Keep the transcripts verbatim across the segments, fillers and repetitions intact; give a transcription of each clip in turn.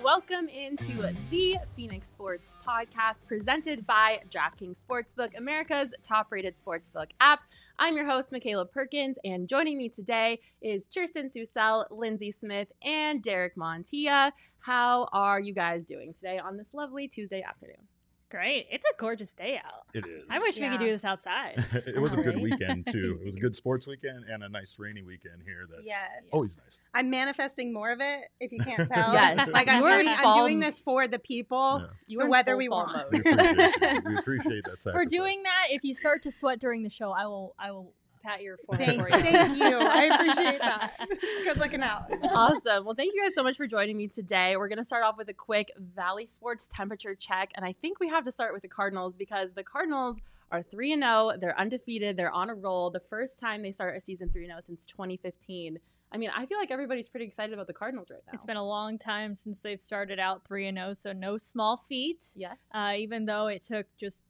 Welcome into the Phoenix Sports Podcast presented by DraftKings Sportsbook, America's top-rated sportsbook app. I'm your host, Michaela Perkins, and joining me today is Kirsten Susel, Lindsay Smith, and Derek Montilla. How are you guys doing today on this lovely Tuesday afternoon? Great. It's a gorgeous day out. It is. I wish Yeah. we could do this outside. It was a good Right. weekend, too. It was a good sports weekend and a nice rainy weekend here. That's Yes. always nice. I'm manifesting more of it, if you can't tell. Yes. Like I'm You are doing, in I'm fall- doing this for the people. Yeah. You The are in weather full we fall want. We mode. appreciate it. We appreciate that sacrifice. For doing that, if you start to sweat during the show, I will I will pat your forehead Thank, for you. thank you. I appreciate that. Good looking out. Awesome. Well, thank you guys so much for joining me today. We're going to start off with a quick Valley Sports temperature check. And I think we have to start with the Cardinals because the Cardinals are three and oh. They're undefeated. They're on a roll. The first time they start a season three and oh since twenty fifteen. I mean, I feel like everybody's pretty excited about the Cardinals right now. It's been a long time since they've started out three and oh, so no small feat. Yes. Uh, even though it took just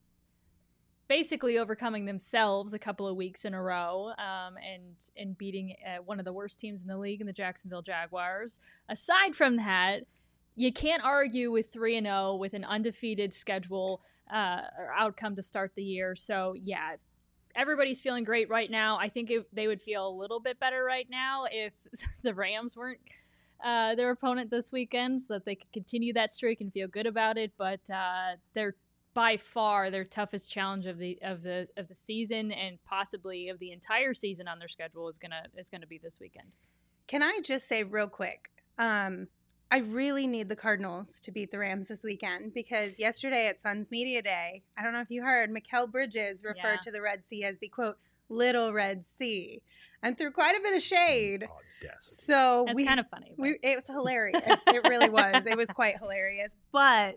basically overcoming themselves a couple of weeks in a row um, and and beating uh, one of the worst teams in the league in the Jacksonville Jaguars. Aside from that, you can't argue with three and oh with an undefeated schedule uh, or outcome to start the year. So, yeah, everybody's feeling great right now. I think it, they would feel a little bit better right now if the Rams weren't uh, their opponent this weekend so that they could continue that streak and feel good about it. But uh, they're by far their toughest challenge of the of the of the season and possibly of the entire season on their schedule is gonna is gonna be this weekend. Can I just say real quick? Um, I really need the Cardinals to beat the Rams this weekend because yesterday at Suns Media Day, I don't know if you heard, Mikal Bridges referred Yeah. to the Red Sea as the, quote, Little Red Sea, and threw quite a bit of shade. Audacity. So That's we, kind of funny. but- we, it was hilarious. It really was. It was quite hilarious. But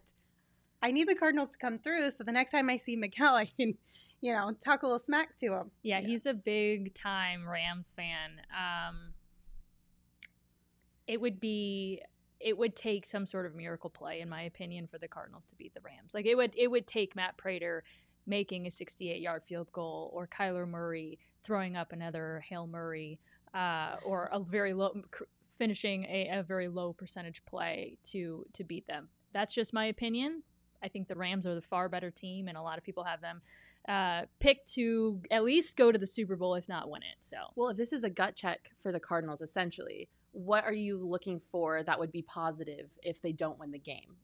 I need the Cardinals to come through so the next time I see Mikal, I can, you know, talk a little smack to him. Yeah, Yeah. he's a big time Rams fan. Um, it would be, it would take some sort of miracle play, in my opinion, for the Cardinals to beat the Rams. Like it would, it would take Matt Prater making a sixty-eight yard field goal, or Kyler Murray throwing up another Hail Murray, uh, or a very low, finishing a, a very low percentage play to to beat them. That's just my opinion. I think the Rams are the far better team, and a lot of people have them uh, picked to at least go to the Super Bowl, if not win it. So, Well, if this is a gut check for the Cardinals, essentially, what are you looking for that would be positive if they don't win the game?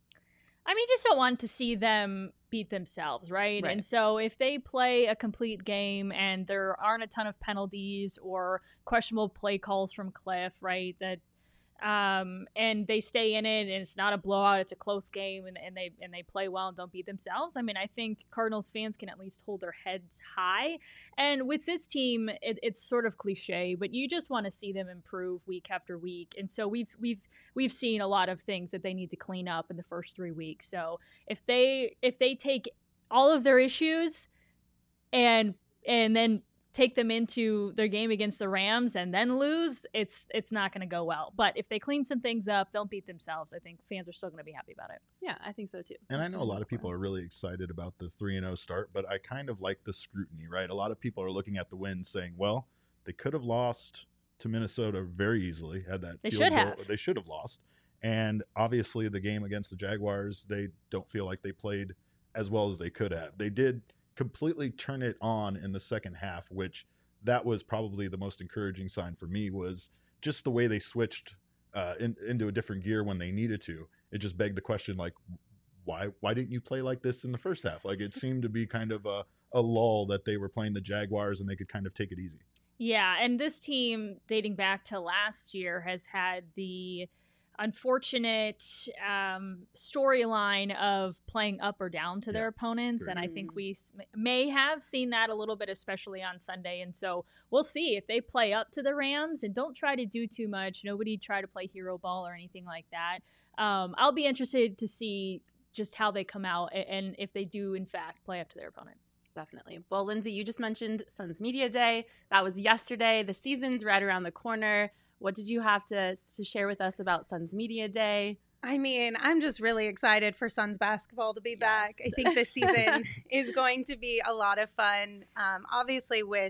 I mean, just don't want to see them beat themselves, right? Right. And so if they play a complete game and there aren't a ton of penalties or questionable play calls from Cliff, right, that um, and they stay in it and it's not a blowout, it's a close game, and, and they and they play well and don't beat themselves, I mean, I think Cardinals fans can at least hold their heads high. And with this team, it, it's sort of cliche, but you just want to see them improve week after week. And so we've we've we've seen a lot of things that they need to clean up in the first three weeks. So if they if they take all of their issues and and then take them into their game against the Rams and then lose, it's it's not going to go well. But if they clean some things up, don't beat themselves, I think fans are still going to be happy about it. Yeah, I think so too. And I That's know a what lot I'm of people looking are really excited about the three and oh start, but I kind of like the scrutiny, right? A lot of people are looking at the wins saying, well, they could have lost to Minnesota very easily, had that They field should goal- have. They should have lost. And obviously the game against the Jaguars, they don't feel like they played as well as they could have. They did completely turn it on in the second half, which that was probably the most encouraging sign for me, was just the way they switched uh, in, into a different gear when they needed to. It just begged the question, like, why why didn't you play like this in the first half? Like, it seemed to be kind of a, a lull that they were playing the Jaguars and they could kind of take it easy. Yeah, and this team, dating back to last year, has had the unfortunate um, storyline of playing up or down to Yeah, their opponents. very And I true. think we s- may have seen that a little bit, especially on Sunday. And so we'll see if they play up to the Rams and don't try to do too much. Nobody try to play hero ball or anything like that. Um, I'll be interested to see just how they come out a- and if they do, in fact, play up to their opponent. Definitely. Well, Lindsay, you just mentioned Suns Media Day. That was yesterday. The season's right around the corner. What did you have to, to share with us about Suns Media Day? I mean, I'm just really excited for Suns basketball to be back. I Yes. think this season is going to be a lot of fun. Um, obviously, with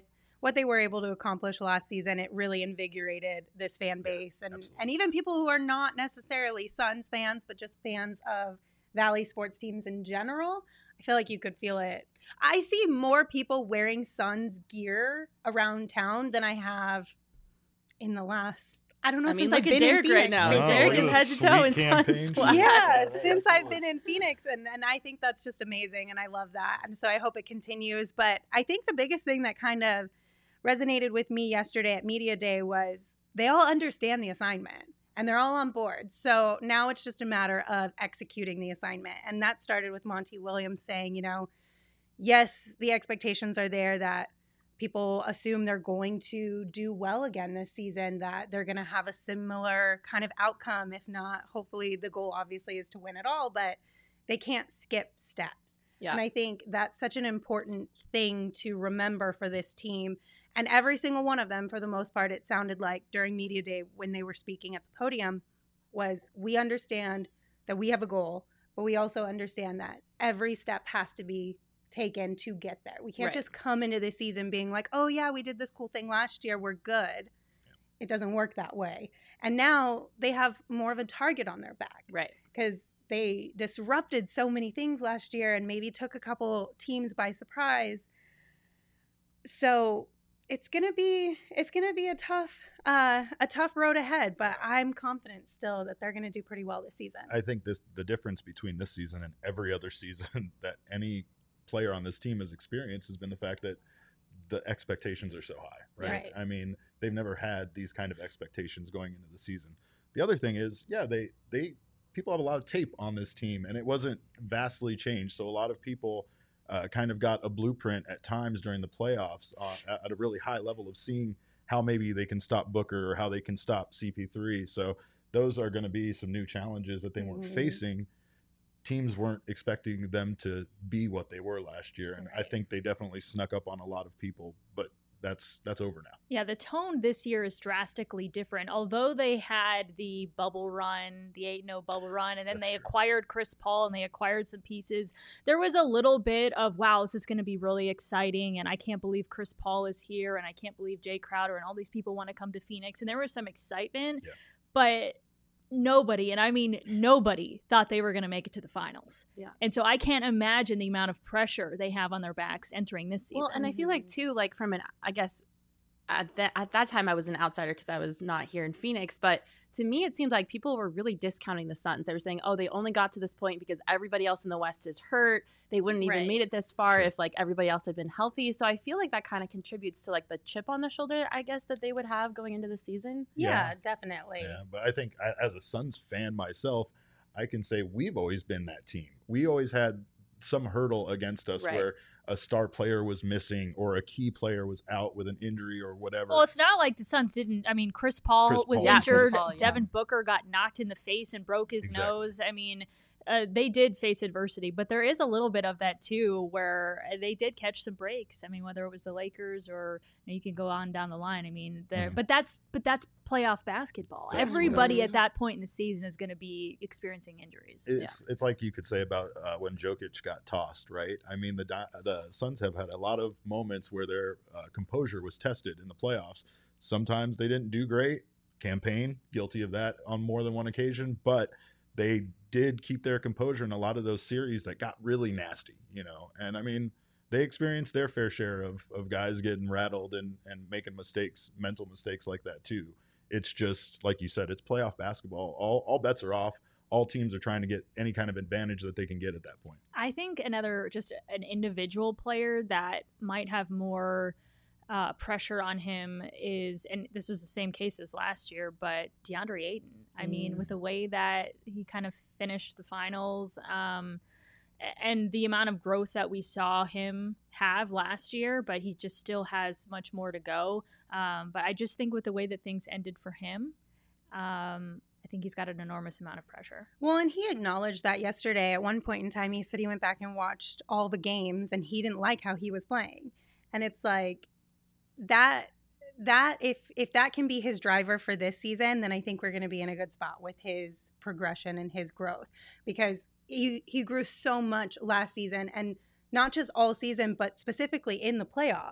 what they were able to accomplish last season, it really invigorated this fan base. Yeah, and, absolutely. and even people who are not necessarily Suns fans, but just fans of Valley sports teams in general. I feel like you could feel it. I see more people wearing Suns gear around town than I have in the last, I don't know, I mean, since look I've at been Derek in Phoenix. right now. Oh, Derek look is at head the to toe in sweet Suns campaign swag. she Yeah, did. since I've been in Phoenix, and, and I think that's just amazing, and I love that. And so I hope it continues. But I think the biggest thing that kind of resonated with me yesterday at Media Day was they all understand the assignment and they're all on board. So now it's just a matter of executing the assignment. And that started with Monty Williams saying, you know, yes, the expectations are there that people assume they're going to do well again this season, that they're going to have a similar kind of outcome. If not, hopefully the goal obviously is to win it all, but they can't skip steps. Yeah. And I think that's such an important thing to remember for this team. And every single one of them, for the most part, it sounded like during Media Day when they were speaking at the podium, was we understand that we have a goal, but we also understand that every step has to be taken to get there. We can't Right. just come into this season being like, oh yeah, we did this cool thing last year, we're good. It doesn't work that way. And now they have more of a target on their back Right. because they disrupted so many things last year and maybe took a couple teams by surprise. So it's gonna be it's gonna be a tough uh, a tough road ahead, but I'm confident still that they're gonna do pretty well this season. I think this the difference between this season and every other season that any player on this team has experienced has been the fact that the expectations are so high, right? Right. I mean, they've never had these kind of expectations going into the season. The other thing is, yeah, they they people have a lot of tape on this team, and it wasn't vastly changed. So a lot of people uh, kind of got a blueprint at times during the playoffs uh, at, at a really high level of seeing how maybe they can stop Booker or how they can stop C P three. So those are going to be some new challenges that they weren't Mhm. facing. Teams weren't expecting them to be what they were last year, and I Right. think they definitely snuck up on a lot of people. But that's that's over now. Yeah, the tone this year is drastically different. Although they had the bubble run, the eight and oh bubble run, and then That's they true. acquired Chris Paul and they acquired some pieces, there was a little bit of, wow, this is going to be really exciting, and I can't believe Chris Paul is here, and I can't believe Jay Crowder and all these people want to come to Phoenix. And there was some excitement, Yeah. but nobody, and I mean nobody, thought they were going to make it to the finals. Yeah. And so I can't imagine the amount of pressure they have on their backs entering this season. Well, and I feel like too, like from an, I guess at that at that time I was an outsider because I was not here in Phoenix, but to me it seemed like people were really discounting the Suns. They were saying, oh, they only got to this point because everybody else in the West is hurt. They wouldn't even Right. made it this far Sure. if like everybody else had been healthy. So I feel like that kind of contributes to like the chip on the shoulder, I guess, that they would have going into the season. Yeah, Yeah. definitely. Yeah, but I think I, as a Suns fan myself, I can say we've always been that team. We always had some hurdle against us Right. where a star player was missing or a key player was out with an injury or whatever. Well, it's not like the Suns didn't. I mean, Chris Paul Chris was Paul. Yeah, Chris injured. Paul, yeah. Devin Booker got knocked in the face and broke his Exactly. nose. I mean, uh, they did face adversity, but there is a little bit of that too, where they did catch some breaks. I mean, whether it was the Lakers or you, know, you can go on down the line. I mean, there, Mhm. but that's but that's playoff basketball. That's Everybody what it at is. that point in the season is going to be experiencing injuries. It's it's like you could say about uh, when Jokic got tossed, right? I mean, the Di- the Suns have had a lot of moments where their uh, composure was tested in the playoffs. Sometimes they didn't do great. Campaign guilty of that on more than one occasion, but they did keep their composure in a lot of those series that got really nasty, you know. And I mean, they experienced their fair share of of guys getting rattled and and making mistakes, mental mistakes like that too. It's just like you said, it's playoff basketball. All all bets are off. All teams are trying to get any kind of advantage that they can get at that point. I think another just an individual player that might have more uh, pressure on him is, and this was the same case as last year, but DeAndre Ayton. I mean, Mm. with the way that he kind of finished the finals, um, a- and the amount of growth that we saw him have last year, but he just still has much more to go. Um, but I just think with the way that things ended for him, um, I think he's got an enormous amount of pressure. Well, and he acknowledged that yesterday. At one point in time, he said he went back and watched all the games and he didn't like how he was playing. And it's like that that if if that can be his driver for this season, then I think we're going to be in a good spot with his progression and his growth, because he he grew so much last season, and not just all season, but specifically in the playoffs. Yeah.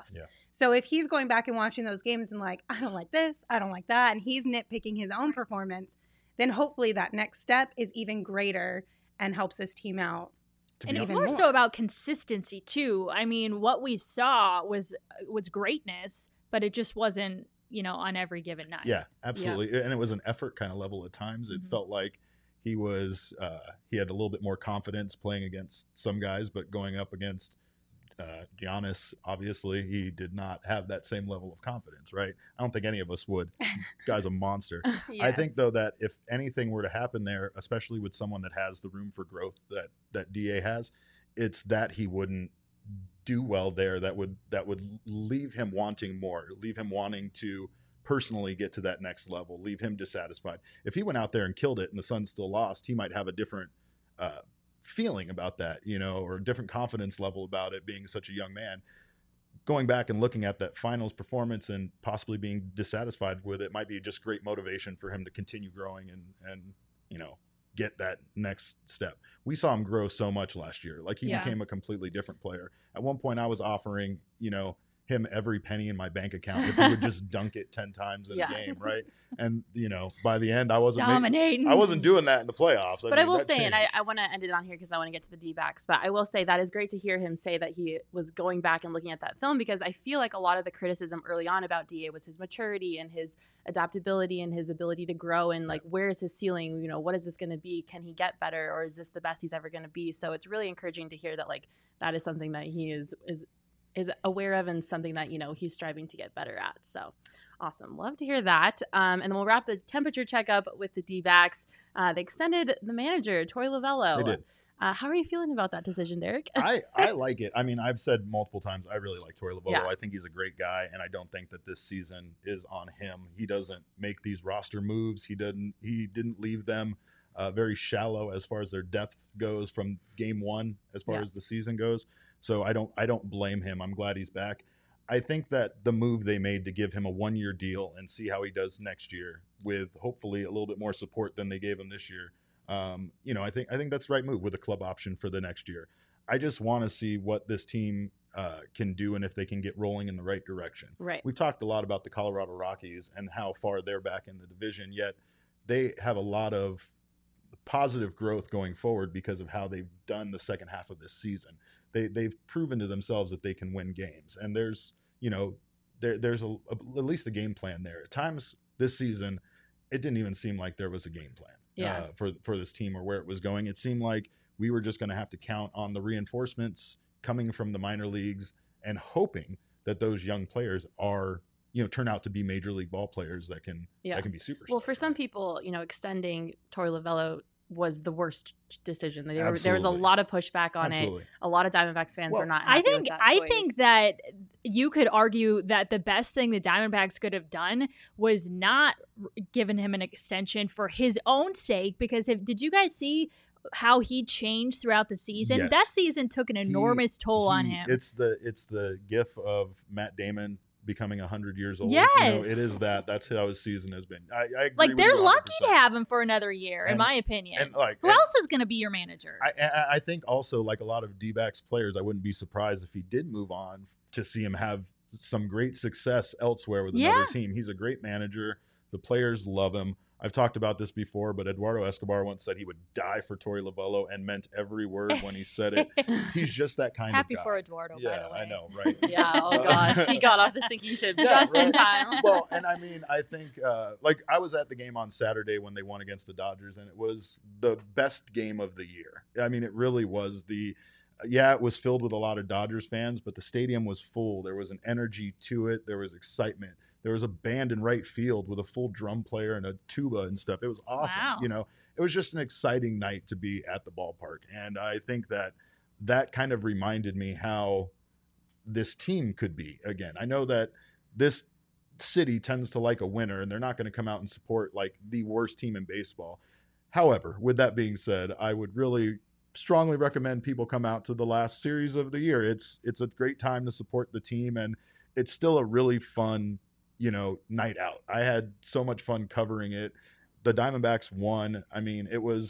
So if he's going back and watching those games and like, I don't like this, I don't like that, and he's nitpicking his own performance, then hopefully that next step is even greater and helps his team out. And it's even more, more so about consistency too. I mean, what we saw was was greatness, but it just wasn't, you know, on every given night. Yeah, absolutely. Yeah. And it was an effort kind of level at times. It mm-hmm. felt like he was uh, he had a little bit more confidence playing against some guys, but going up against uh, Giannis, obviously, he did not have that same level of confidence, right? I don't think any of us would. Guy's a monster. Yes. I think, though, that if anything were to happen there, especially with someone that has the room for growth that that D A has, it's that he wouldn't do well there. That would that would leave him wanting more, leave him wanting to personally get to that next level, leave him dissatisfied. If he went out there and killed it and the Suns still lost, he might have a different uh, feeling about that, you know, or a different confidence level about it being such a young man. Going back and looking at that finals performance and possibly being dissatisfied with it might be just great motivation for him to continue growing and, and, you know, get that next step. We saw him grow so much last year. Like he yeah. became a completely different player. At one point I was offering, you know, him every penny in my bank account if he would just dunk it ten times in yeah. a game, right? And you know, by the end, I wasn't dominating. Making, I wasn't doing that in the playoffs. I but mean, I will say, changed. and I, I want to end it on here because I want to get to the D-backs. But I will say that is great to hear him say that he was going back and looking at that film, because I feel like a lot of the criticism early on about D A was his maturity and his adaptability and his ability to grow, and like, where is his ceiling? You know, what is this going to be? Can he get better, or is this the best he's ever going to be? So it's really encouraging to hear that like that is something that he is is. is aware of and something that, you know, he's striving to get better at. So awesome. Love to hear that. Um, and then we'll wrap the temperature checkup with the D-backs. Uh, they extended the manager, Torey Lovullo. They did. Uh, how are you feeling about that decision, Derek? I, I like it. I mean, I've said multiple times, I really like Torey Lovullo. Yeah. I think he's a great guy, and I don't think that this season is on him. He doesn't make these roster moves. He didn't, he didn't leave them uh, very shallow as far as their depth goes from game one, as far yeah. as the season goes. So I don't I don't blame him. I'm glad he's back. I think that the move they made to give him a one-year deal and see how he does next year with hopefully a little bit more support than they gave him this year, um, you know, I think I think that's the right move with a club option for the next year. I just want to see what this team uh, can do and if they can get rolling in the right direction. Right. We've talked a lot about the Colorado Rockies and how far they're back in the division, yet they have a lot of positive growth going forward because of how they've done the second half of this season. They they've proven to themselves that they can win games, and there's you know there there's a, a, at least a game plan there. At times this season, it didn't even seem like there was a game plan yeah. uh, for for this team or where it was going. It seemed like we were just going to have to count on the reinforcements coming from the minor leagues and hoping that those young players are you know turn out to be major league ball players that can yeah. that can be superstars. Well, for right? some people, you know, extending Torey Lovullo was the worst decision. There, were, there was a lot of pushback on Absolutely. it. A lot of Diamondbacks fans well, were not happy I think with that I choice. think that you could argue that the best thing the Diamondbacks could have done was not given him an extension for his own sake, because if did you guys see how he changed throughout the season? Yes. That season took an enormous he, toll he, on him. It's the it's the gif of Matt Damon becoming one hundred years old. Yes. You know, it is that. That's how his season has been. I, I agree like, with they're you lucky to one hundred percent. have him for another year, in And- my opinion. And like, Who and else is going to be your manager? I, I I think also, like a lot of D-backs players, I wouldn't be surprised if he did move on to see him have some great success elsewhere with another Yeah. team. He's a great manager. The players love him. I've talked about this before, but Eduardo Escobar once said he would die for Torey Lovullo and meant every word when he said it. He's just that kind Happy of guy. for Eduardo, yeah, by the way. I know, right? Yeah, oh gosh. He got off the sinking ship Yeah, just in right. time. Well, and I mean, I think, uh, like, I was at the game on Saturday when they won against the Dodgers, and it was the best game of the year. I mean, it really was. The yeah, it was filled with a lot of Dodgers fans, but the stadium was full. There was an energy to it. There was excitement. There was a band in right field with a full drum player and a tuba and stuff. It was awesome. Wow. You know, it was just an exciting night to be at the ballpark. And I think that that kind of reminded me how this team could be again. I know that this city tends to like a winner, and they're not going to come out and support like the worst team in baseball. However, with that being said, I would really strongly recommend people come out to the last series of the year. It's it's a great time to support the team, and it's still a really fun, you know, night out. I had so much fun covering it. The Diamondbacks won. I mean, it was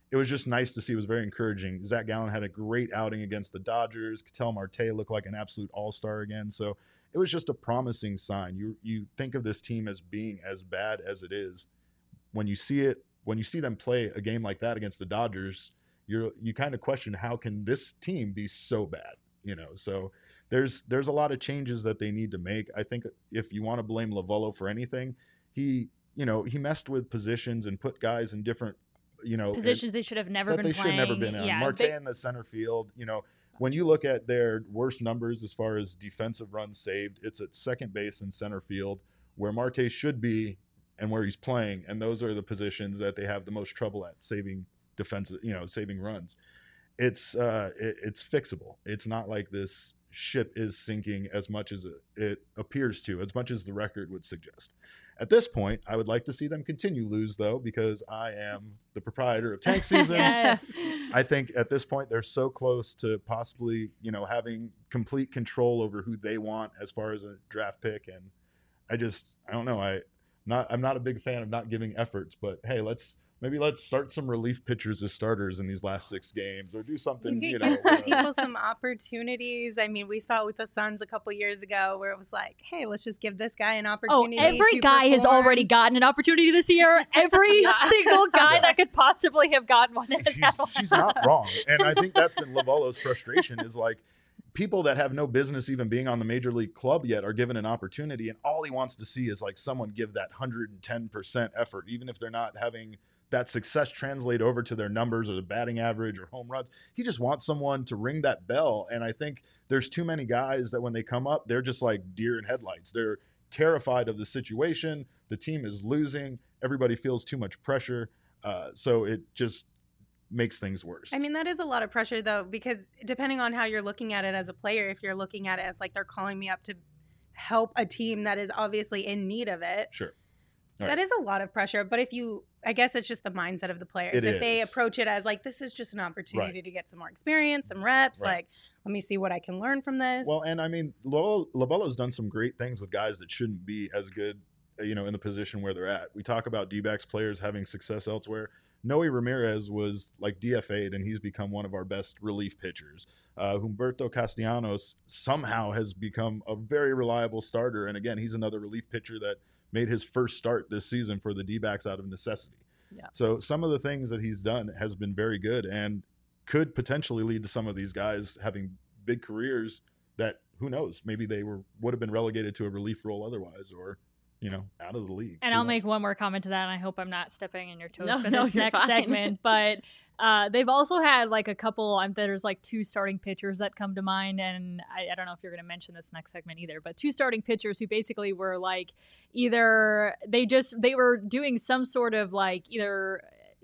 it was just nice to see. It was very encouraging. Zach Gallen had a great outing against the Dodgers. Ketel Marte looked like an absolute all-star again. So it was just a promising sign. You you think of this team as being as bad as it is. When you see it, when you see them play a game like that against the Dodgers, you're you kind of question, how can this team be so bad? You know, so there's there's a lot of changes that they need to make. I think if you want to blame Lovullo for anything, he you know he messed with positions and put guys in different you know positions they should have never that been they playing. should never been in. Yeah, Marte they, in the center field, you know. When you look at their worst numbers as far as defensive runs saved, it's at second base and center field, where Marte should be and where he's playing, and those are the positions that they have the most trouble at saving defensive, you know, saving runs. It's uh, it, it's fixable. It's not like this ship is sinking as much as it, it appears to, as much as the record would suggest. At this point, I would like to see them continue lose, though, because I am the proprietor of Tank Season. Yes. I think at this point they're so close to possibly, you know, having complete control over who they want as far as a draft pick. And I just, I don't know. I not, I'm not a big fan of not giving efforts, but hey, let's maybe let's start some relief pitchers as starters in these last six games, or do something. You You could know, give some uh, people some opportunities. I mean, we saw it with the Suns a couple years ago, where it was like, "Hey, let's just give this guy an Oh, opportunity." every to guy has perform. already gotten an opportunity this year. Every single guy that could possibly have gotten one has had she's, one. she's not wrong. And I think that's been Lovullo's frustration, is like people that have no business even being on the major league club yet are given an opportunity, and all he wants to see is like someone give that one hundred ten percent effort, even if they're not having that success translate over to their numbers or the batting average or home runs. He just wants someone to ring that bell. And I think there's too many guys that when they come up, they're just like deer in headlights. They're terrified of the situation. The team is losing. Everybody feels too much pressure. Uh, so it just makes things worse. I mean, that is a lot of pressure, though, because depending on how you're looking at it as a player, if you're looking at it as like they're calling me up to help a team that is obviously in need of it, Sure. that Right. is a lot of pressure. But if you, I guess it's just the mindset of the players. It if they is. approach it as like, this is just an opportunity to get some more experience, some reps, Right. like, let me see what I can learn from this. Well, and I mean, Lovullo's done some great things with guys that shouldn't be as good, you know, in the position where they're at. We talk about D-backs players having success elsewhere. Noe Ramirez was like D F A'd, and he's become one of our best relief pitchers. Uh, Humberto Castellanos somehow has become a very reliable starter. And again, he's another relief pitcher that made his first start this season for the D-backs out of necessity. Yeah. So some of the things that he's done has been very good and could potentially lead to some of these guys having big careers that, who knows, maybe they were would have been relegated to a relief role otherwise, or, you know, out of the league. And Who I'll knows? make one more comment to that, and I hope I'm not stepping on your toes No, for no, this you're next fine. segment. But uh, they've also had like a couple. Um, there's like two starting pitchers that come to mind, and I, I don't know if you're going to mention this next segment either. But two starting pitchers who basically were like either they just they were doing some sort of like either.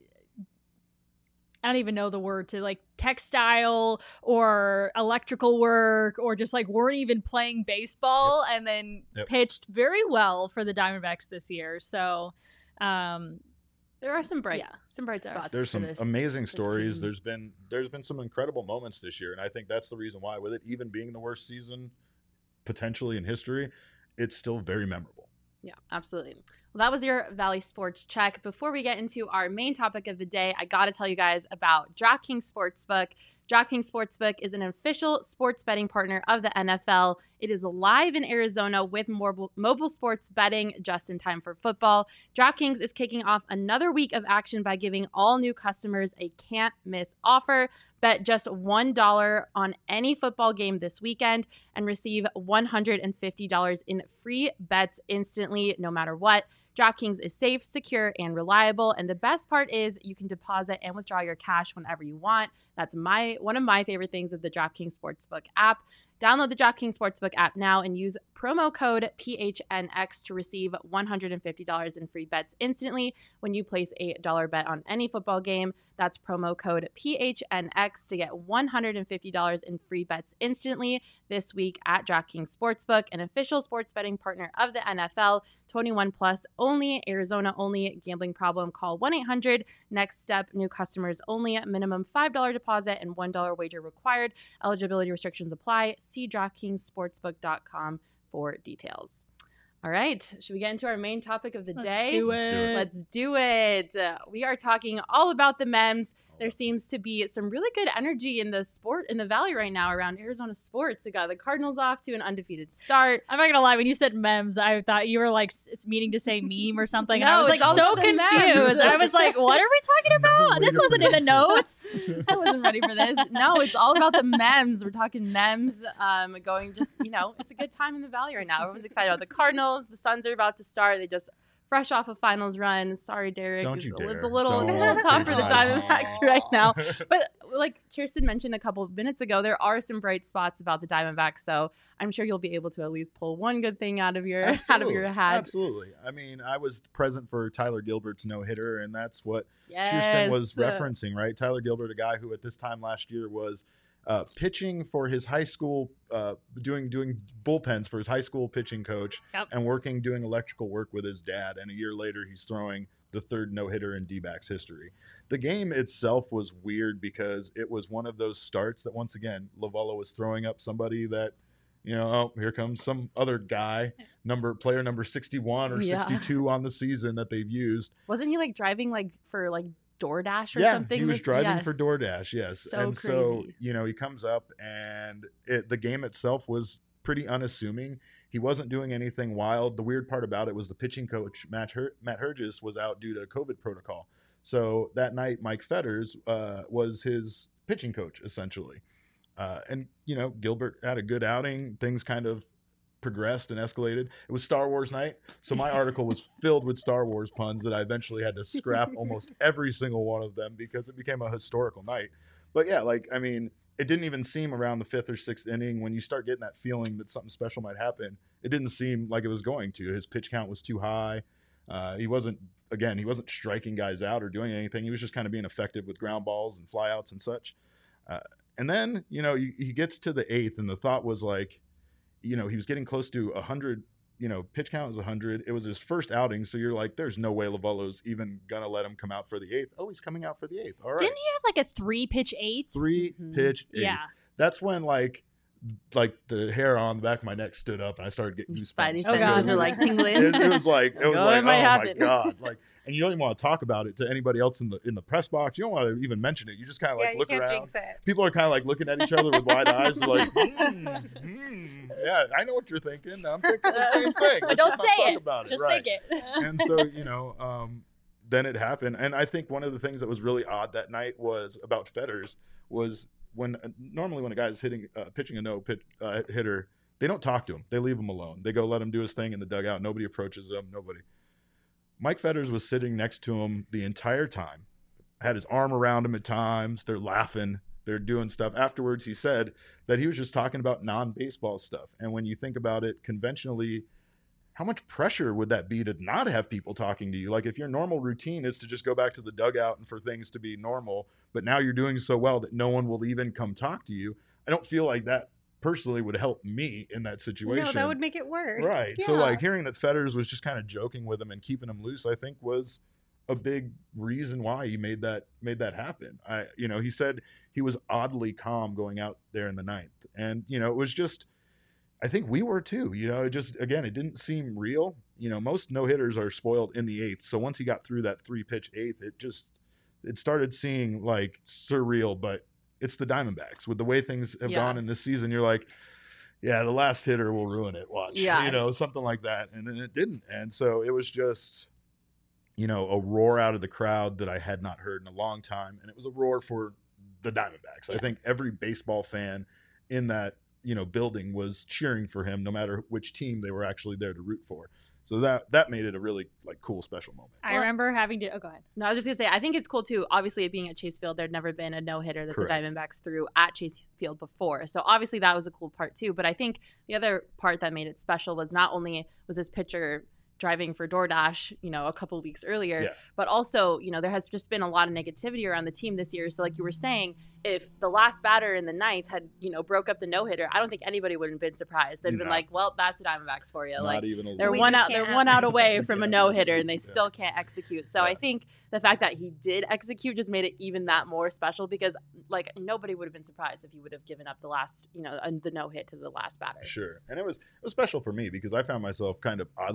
I don't even know the word to like textile or electrical work, or just like weren't even playing baseball, Yep. and then Yep. pitched very well for the Diamondbacks this year. So, um, There are some bright, Yeah. some bright There- spots. There's for some this, amazing this stories. team. There's been there's been some incredible moments this year, and I think that's the reason why, with it even being the worst season potentially in history, it's still very memorable. Yeah, absolutely. Well, that was your Valley Sports Check. Before we get into our main topic of the day, I got to tell you guys about DraftKings Sportsbook. DraftKings Sportsbook is an official sports betting partner of the N F L. It is live in Arizona with mobile, mobile sports betting just in time for football. DraftKings is kicking off another week of action by giving all new customers a can't-miss offer. Bet just one dollar on any football game this weekend and receive one hundred fifty dollars in free bets instantly, no matter what. DraftKings is safe, secure, and reliable. And the best part is you can deposit and withdraw your cash whenever you want. That's my one of my favorite things of the DraftKings Sportsbook app. Download the DraftKings Sportsbook app now and use promo code P H N X to receive one hundred fifty dollars in free bets instantly when you place a dollar bet on any football game. That's promo code P H N X to get one hundred fifty dollars in free bets instantly this week at DraftKings Sportsbook, an official sports betting partner of the N F L. twenty-one plus only, Arizona only. Gambling problem? Call one eight hundred next step. New customers only. Minimum five dollars deposit and one dollar wager required. Eligibility restrictions apply. See DraftKings Sportsbook dot com for details. All right, should we get into our main topic of the let's day? do Let's do it. it. Let's do it. Uh, we are talking all about the Mems. there seems to be some really good energy in the sport in the Valley right now around Arizona sports. We got the Cardinals off to an undefeated start. I'm not gonna lie, when you said memes, I thought you were like s- meaning to say meme or something, and No, I was it's like all so about the confused. memes. I was like, what are we talking about? This wasn't in the notes. I wasn't ready for this. No, it's all about the memes. We're talking memes. Um, going just you know, it's a good time in the Valley right now. Everyone's excited about the Cardinals. The Suns are about to start. They just fresh off a finals run. Sorry, Derek. Don't it's, you dare. it's a little, Don't. a little tough for the Don't. Diamondbacks right now. But like Kirsten mentioned a couple of minutes ago, there are some bright spots about the Diamondbacks. So I'm sure you'll be able to at least pull one good thing out of your out of your hat. Absolutely. I mean, I was present for Tyler Gilbert's no hitter, and that's what Yes. Kirsten was referencing, right? Tyler Gilbert, a guy who at this time last year was uh, pitching for his high school, uh, doing doing bullpens for his high school pitching coach, Yep. and working doing electrical work with his dad. And a year later, he's throwing the third no-hitter in D-backs history. The game itself was weird because it was one of those starts that, once again, Lovello was throwing up somebody that, you know, oh, here comes some other guy, number player number sixty-one or Yeah. sixty-two on the season that they've used. Wasn't he like driving like for like DoorDash or yeah, something? he was this- driving yes. for DoorDash, yes. So and so, crazy. you know, he comes up and it, the game itself was pretty unassuming. He wasn't doing anything wild. The weird part about it was the pitching coach, Matt, Her- Matt Hergis, was out due to COVID protocol. So that night, Mike Fetters uh, was his pitching coach, essentially. Uh, and, you know, Gilbert had a good outing. Things kind of progressed and escalated. It was Star Wars night. So my article was filled with Star Wars puns that I eventually had to scrap almost every single one of them because it became a historical night. But yeah, like, I mean, it didn't even seem around the fifth or sixth inning when you start getting that feeling that something special might happen. It didn't seem like it was going to. His pitch count was too high. Uh, he wasn't, again, he wasn't striking guys out or doing anything. He was just kind of being effective with ground balls and flyouts and such. Uh, and then, you know, he, he gets to the eighth, and the thought was like, you know, he was getting close to one hundred, you know, pitch count was one hundred. It was his first outing, so you're like, there's no way Lovello's even going to let him come out for the eighth. Oh, he's coming out for the eighth. All right. Didn't he have like a three pitch eighth? Three Mhm. pitch eighth. Yeah. That's when, like, like the hair on the back of my neck stood up, and I started getting Your goosebumps. Spidey Oh, God. senses are like tingling. It, it was like, it was Oh, like, it might oh happen. my God. Like, and you don't even want to talk about it to anybody else in the in the press box. You don't want to even mention it. You just kind of yeah, like you look can't around. jinx it. People are kind of like looking at each other with wide eyes. They're like, mm, mm, yeah, I know what you're thinking. I'm thinking the same thing. But Let's don't just say not talk it. about it. Just right. think it. And so, you know, um, then it happened. And I think one of the things that was really odd that night was about Fetters was when uh, normally when a guy is hitting, uh, pitching a no pitch uh, hitter, they don't talk to him. They leave him alone. They go let him do his thing in the dugout. Nobody approaches him. Nobody. Mike Fetters was sitting next to him the entire time, had his arm around him at times. They're laughing. They're doing stuff. Afterwards, he said that he was just talking about non-baseball stuff. And when you think about it conventionally, how much pressure would that be to not have people talking to you? Like if your normal routine is to just go back to the dugout and for things to be normal, but now you're doing so well that no one will even come talk to you. I don't feel like that personally would help me in that situation. No, that would make it worse. Right. So Yeah. like hearing that Fetters was just kind of joking with him and keeping him loose, I think was a big reason why he made that made that happen. I you know, he said he was oddly calm going out there in the ninth. And, you know, it was just I think we were too. You know, it just again, it didn't seem real. You know, most no-hitters are spoiled in the eighth. So once he got through that three-pitch eighth, it just it started seeing like surreal, but it's the Diamondbacks. With the way things have Yeah. gone in this season, you're like, yeah, the last hitter will ruin it. Watch, Yeah. you know, something like that. And then it didn't. And so it was just, you know, a roar out of the crowd that I had not heard in a long time. And it was a roar for the Diamondbacks. I Yeah. think every baseball fan in that, you know, building was cheering for him, no matter which team they were actually there to root for. So that that made it a really like cool special moment. I Well- remember having to. Oh, go ahead. No, I was just gonna say, I think it's cool too. Obviously, it being at Chase Field, there'd never been a no hitter that Correct. the Diamondbacks threw at Chase Field before. So obviously, that was a cool part too. But I think the other part that made it special was not only was this pitcher driving for DoorDash, you know, a couple weeks earlier, Yeah. but also, you know, there has just been a lot of negativity around the team this year. So, like you were saying, if the last batter in the ninth had, you know, broke up the no hitter, I don't think anybody would have been surprised. They'd have been No. like, "Well, that's the Diamondbacks for you." Not Like, even a they're We one just out. They're can't one have out these away things. from a Yeah. no hitter, and they Yeah. still can't execute. So Yeah. I think the fact that he did execute just made it even that more special because, like, nobody would have been surprised if he would have given up the last, you know, uh, the no hit to the last batter. Sure. And it was it was special for me because I found myself kind of oddly emotional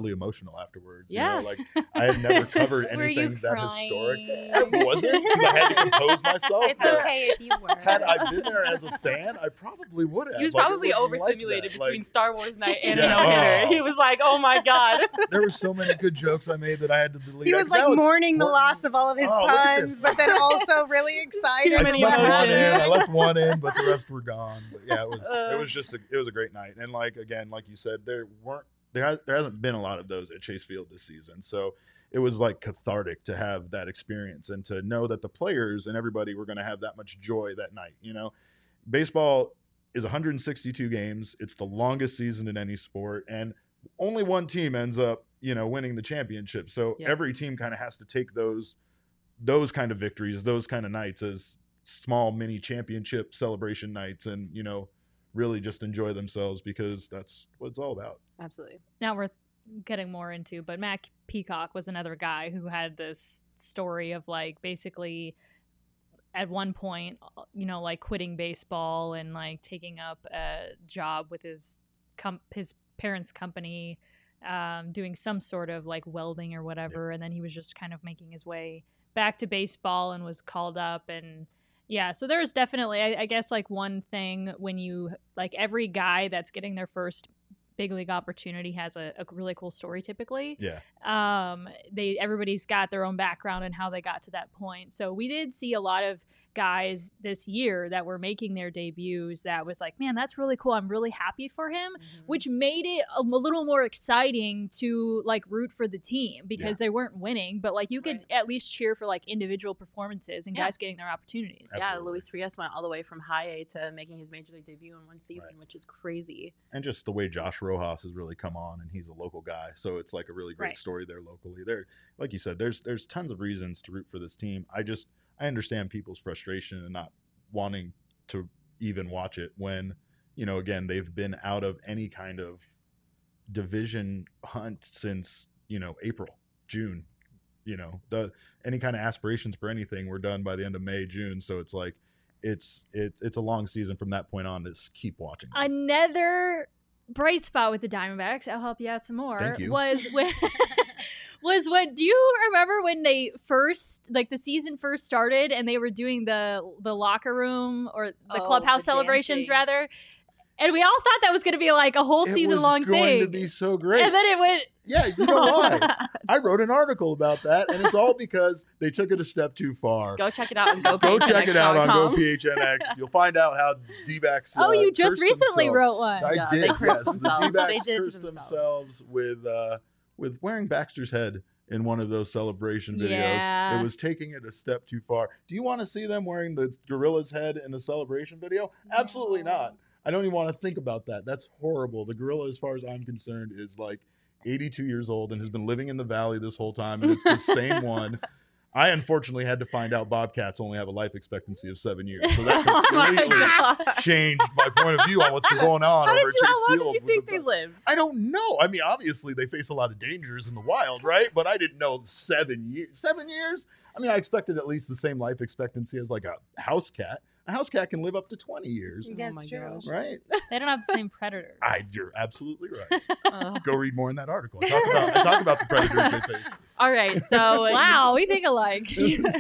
emotional afterwards. Yeah. You know? Like I had never covered Were you anything that crying? historic. I wasn't because I had to compose myself. It's but okay if you were. Had I been there as a fan, I probably would have. He was Like, it probably wasn't like overstimulated that. between Like, Star Wars night and Yeah. a no hitter. Oh. He was like, "Oh my god." there were so many good jokes I made that I had to delete. He was Because like now it's mourning the important. loss of all of his Oh, look at puns, this. but then also really excited. Too I many snuck one emotions. in. I left one in, but the rest were gone. But yeah, it was Uh. it was just a, it was a great night. And like again, like you said, there weren't there has, there hasn't been a lot of those at Chase Field this season. So it was like cathartic to have that experience and to know that the players and everybody were going to have that much joy that night. You know, baseball is one hundred sixty-two games. It's the longest season in any sport, and only one team ends up, you know, winning the championship. So Yeah. every team kind of has to take those those kind of victories, those kind of nights as small mini championship celebration nights, and you know, really just enjoy themselves because that's what it's all about. Absolutely. Not worth getting more into, but Matt Peacock was another guy who had this story of like basically at one point, you know, like quitting baseball and like taking up a job with his com- his parents' company, um, doing some sort of like welding or whatever, and then he was just kind of making his way back to baseball and was called up. And yeah, so there's definitely, I, I guess, like one thing when you like every guy that's getting their first big league opportunity has a, a really cool story typically. Yeah. Um, they everybody's got their own background and how they got to that point. So we did see a lot of guys this year that were making their debuts that was like, man, that's really cool. I'm really happy for him, Mm-hmm. which made it a, a little more exciting to like root for the team because Yeah. they weren't winning, but like you could Right. at least cheer for like individual performances and Yeah. guys getting their opportunities. Absolutely. Yeah, Luis Frias went all the way from high A to making his major league debut in one season, Right. which is crazy. And just the way Josh Rojas has really come on, and he's a local guy, so it's like a really great Right. story there locally. There, like you said, there's there's tons of reasons to root for this team. I just I understand people's frustration and not wanting to even watch it when, you know, again, they've been out of any kind of division hunt since, you know, April, June. You know, the any kind of aspirations for anything were done by the end of May, June. So it's like it's it's it's a long season from that point on to just keep watching. them. Another bright spot with the Diamondbacks, I'll help you out some more, Thank you. was when was when do you remember when they first like the season first started and they were doing the the locker room or the Oh, clubhouse the celebrations dancing. rather, and we all thought that was going to be like a whole It season was long going thing, to be so great. and then it went Yeah, you know why? I wrote an article about that, and it's all because they took it a step too far. Go check it out on Go Go check it out on Go P H N X. You'll find out how D-backs. oh uh, you just cursed recently themselves. wrote one. I Yeah, did. they Yes, cursed the themselves. D-backs They did to cursed themselves. themselves with uh, with wearing Baxter's head in one of those celebration videos. Yeah. It was taking it a step too far. Do you want to see them wearing the gorilla's head in a celebration video? Absolutely No. not. I don't even want to think about that. That's horrible. The gorilla, as far as I'm concerned, is like eighty-two years old and has been living in the valley this whole time, and it's the same one. I unfortunately had to find out bobcats only have a life expectancy of seven years, so that Oh my completely God. changed my point of view on what's been going on How over did at you, Chase how long Field. did you with think the- they lived? I don't know. I mean, obviously they face a lot of dangers in the wild, right? But I didn't know seven years. Seven years? I mean, I expected at least the same life expectancy as like a house cat. A house cat can live up to twenty years, That's Oh my true. gosh. right? They don't have the same predators. I, you're absolutely right. Uh, Go read more in that article. I talk about, I talk about the predators they face. all right, so Wow, we think alike.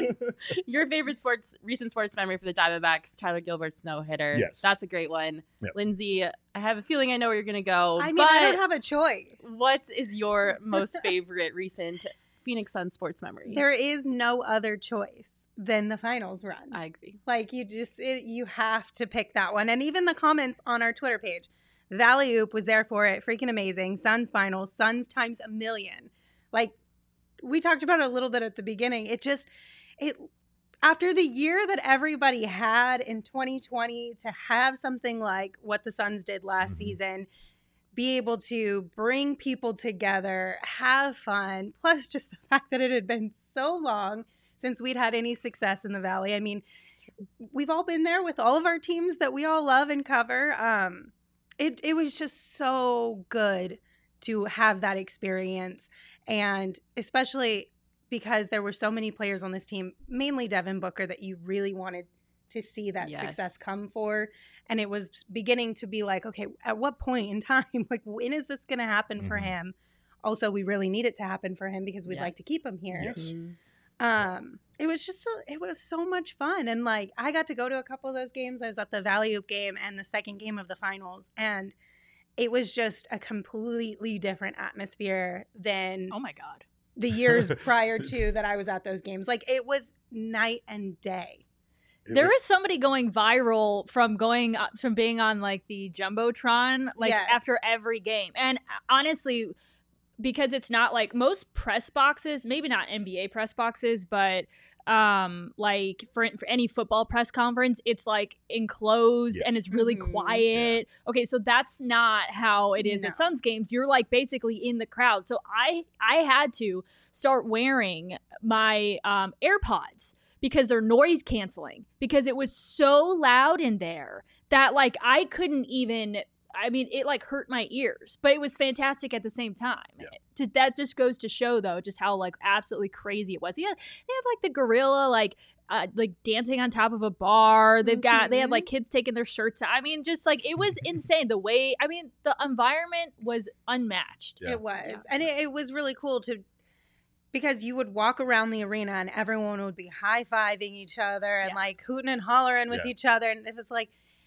your favorite sports recent sports memory for the Diamondbacks, Tyler Gilbert's no hitter. Yes. That's a great one. Yep. Lindsay, I have a feeling I know where you're gonna go. I mean, but I don't have a choice. what is your most favorite recent Phoenix Suns sports memory? There is no other choice than the finals run. I agree. Like you just, it, you have to pick that one. And even the comments on our Twitter page, Valley Oop was there for it. Freaking amazing. Suns finals, Suns times a million. Like we talked about it a little bit at the beginning. It just, it, after the year that everybody had in twenty twenty, to have something like what the Suns did last Mhm. season, be able to bring people together, have fun, plus just the fact that it had been so long since we'd had any success in the Valley. I mean, we've all been there with all of our teams that we all love and cover. Um, it, it was just so good to have that experience. And especially because there were so many players on this team, mainly Devin Booker, that you really wanted to see that Yes. success come for. And it was beginning to be like, okay, at what point in time, like when is this going to happen for Mhm. him also we really need it to happen for him because we'd Yes. like to keep him here. Yes. Mhm. Um, it was just so, it was so much fun, and like I got to go to a couple of those games. I was at the Valley Oop game and the second game of the finals, and it was just a completely different atmosphere than Oh my god. the years prior to It's- that I was at those games. Like it was night and day. It There was- is somebody going viral from going uh, from being on like the jumbotron like Yes. after every game, and uh, honestly, because it's not like most press boxes, maybe not N B A press boxes, but um like for, for any football press conference, it's like enclosed Yes. and it's really Mhm. quiet. Okay, so that's not how it is No. at Suns games. You're like basically in the crowd. So I I had to start wearing my um AirPods because they're noise canceling, because it was so loud in there that like I couldn't even, I mean, it like hurt my ears, but it was fantastic at the same time. Yeah. To, that just goes to show though just how like absolutely crazy it was. Yeah, they have like the gorilla like uh, like dancing on top of a bar. They've got they had like kids taking their shirts out. I mean, just like it was insane. The way, I mean, the environment was unmatched. Yeah. It was. Yeah. And it, it was really cool to, because you would walk around the arena and everyone would be high-fiving each other and Yeah. like hooting and hollering with Yeah. each other. And it was like,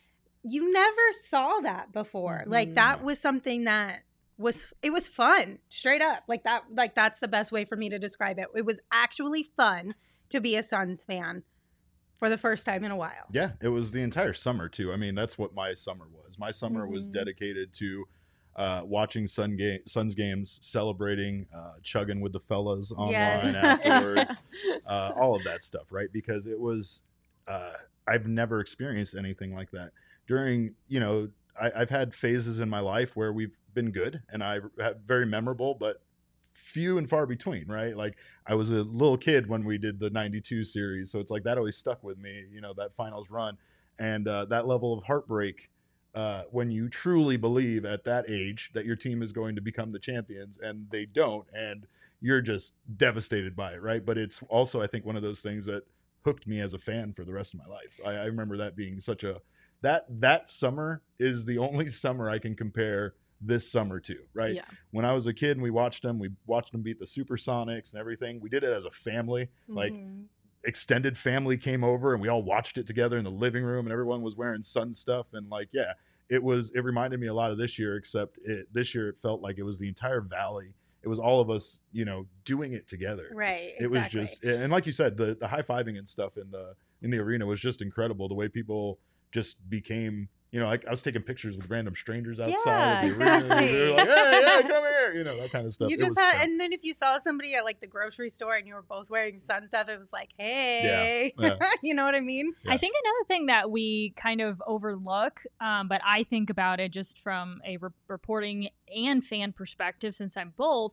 you never saw that before. Like Mhm. that No. was something that was, it was fun, straight up. Like that, like that's the best way for me to describe it. It was actually fun to be a Suns fan for the first time in a while. Yeah, it was the entire summer too. I mean, that's what my summer was. My summer was Mhm. dedicated to uh, watching Sun ga- Suns games, celebrating, uh, chugging with the fellas online Yes. afterwards, uh, all of that stuff, right? Because it was, uh, I've never experienced anything like that. During, you know, I, I've had phases in my life where we've been good and I've had very memorable, but few and far between, right? Like I was a little kid when we did the ninety-two series, so it's like that always stuck with me, you know, that finals run and uh, that level of heartbreak uh, when you truly believe at that age that your team is going to become the champions and they don't, and you're just devastated by it, right? But it's also, I think, one of those things that hooked me as a fan for the rest of my life. I, I remember that being such a that that summer is the only summer I can compare this summer to, right? Yeah. When I was a kid and we watched them, we watched them beat the Supersonics and everything. We did it as a family. Like Mhm. extended family came over and we all watched it together in the living room and everyone was wearing Sun stuff. And like, yeah, it was, it reminded me a lot of this year, except it, this year it felt like it was the entire Valley. It was all of us, you know, doing it together. Right. It was exactly. just, and like you said, the, the high fiving and stuff in the, in the arena was just incredible. The way people just became, you know, like I was taking pictures with random strangers outside Yeah, of the arena. exactly. They were like, hey, hey, come here, you know, that kind of stuff. You It just was had, fun. and then if you saw somebody at like the grocery store and you were both wearing Sun stuff, it was like, hey, Yeah. you know what I mean? Yeah. I think another thing that we kind of overlook, um, but I think about it just from a re- reporting and fan perspective, since I'm both,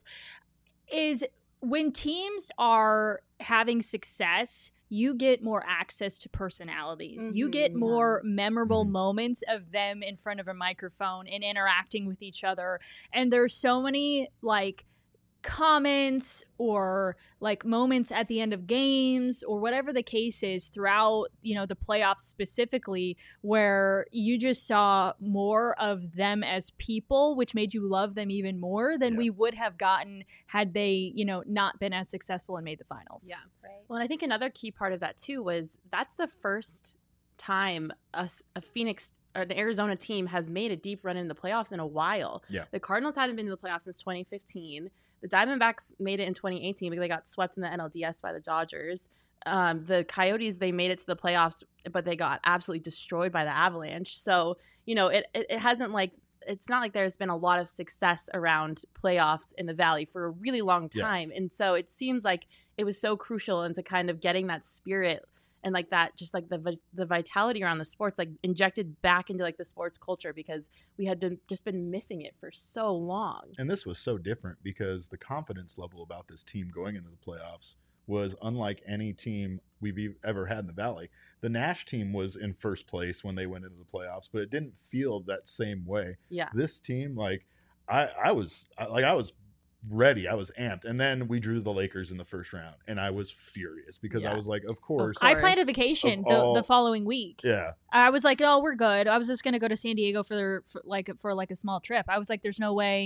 is when teams are having success, you get more access to personalities. You get Mhm. more memorable Mhm. moments of them in front of a microphone and interacting with each other. And there's so many like comments or like moments at the end of games or whatever the case is throughout, you know, the playoffs specifically, where you just saw more of them as people, which made you love them even more than Yeah. we would have gotten had they, you know, not been as successful and made the finals. Yeah. Right. Well, and I think another key part of that too was that's the first time a, s- a Phoenix or an Arizona team has made a deep run in the playoffs in a while. Yeah. The Cardinals hadn't been to the playoffs since twenty fifteen. The Diamondbacks made it in twenty eighteen because they got swept in the N L D S by the Dodgers. Um, the Coyotes, they made it to the playoffs, but they got absolutely destroyed by the Avalanche. So, you know, it, it, it hasn't like, it's not like there's been a lot of success around playoffs in the Valley for a really long Yeah. time. And so it seems like it was so crucial into kind of getting that spirit and like that, just like the vi- the vitality around the sports, like injected back into like the sports culture, because we had been, just been missing it for so long. And this was so different because the confidence level about this team going into the playoffs was unlike any team we've e- ever had in the Valley. The Nash team was in first place when they went into the playoffs, but it didn't feel that same way. Yeah. This team, like I, I was I- like I was ready, I was amped, and then we drew the Lakers in the first round, and I was furious because Yeah. I was like, of course, I planned a course. vacation Of the, all- the following week. yeah, I was like, oh, we're good. I was just gonna go to San Diego for, for like for like a small trip. I was like, there's no way.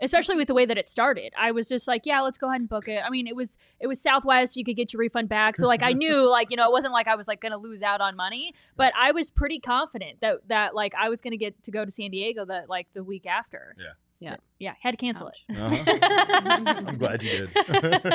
especially with the way that it started. I was just like, yeah, let's go ahead and book it. I mean, it was it was Southwest. You could get your refund back. So like I knew like, you know, it wasn't like I was like going to lose out on money, but I was pretty confident that that like I was going to get to go to San Diego that like the week after. Yeah. Yeah. Yeah. Had to cancel Ouch. it. Uh-huh. I'm glad you did.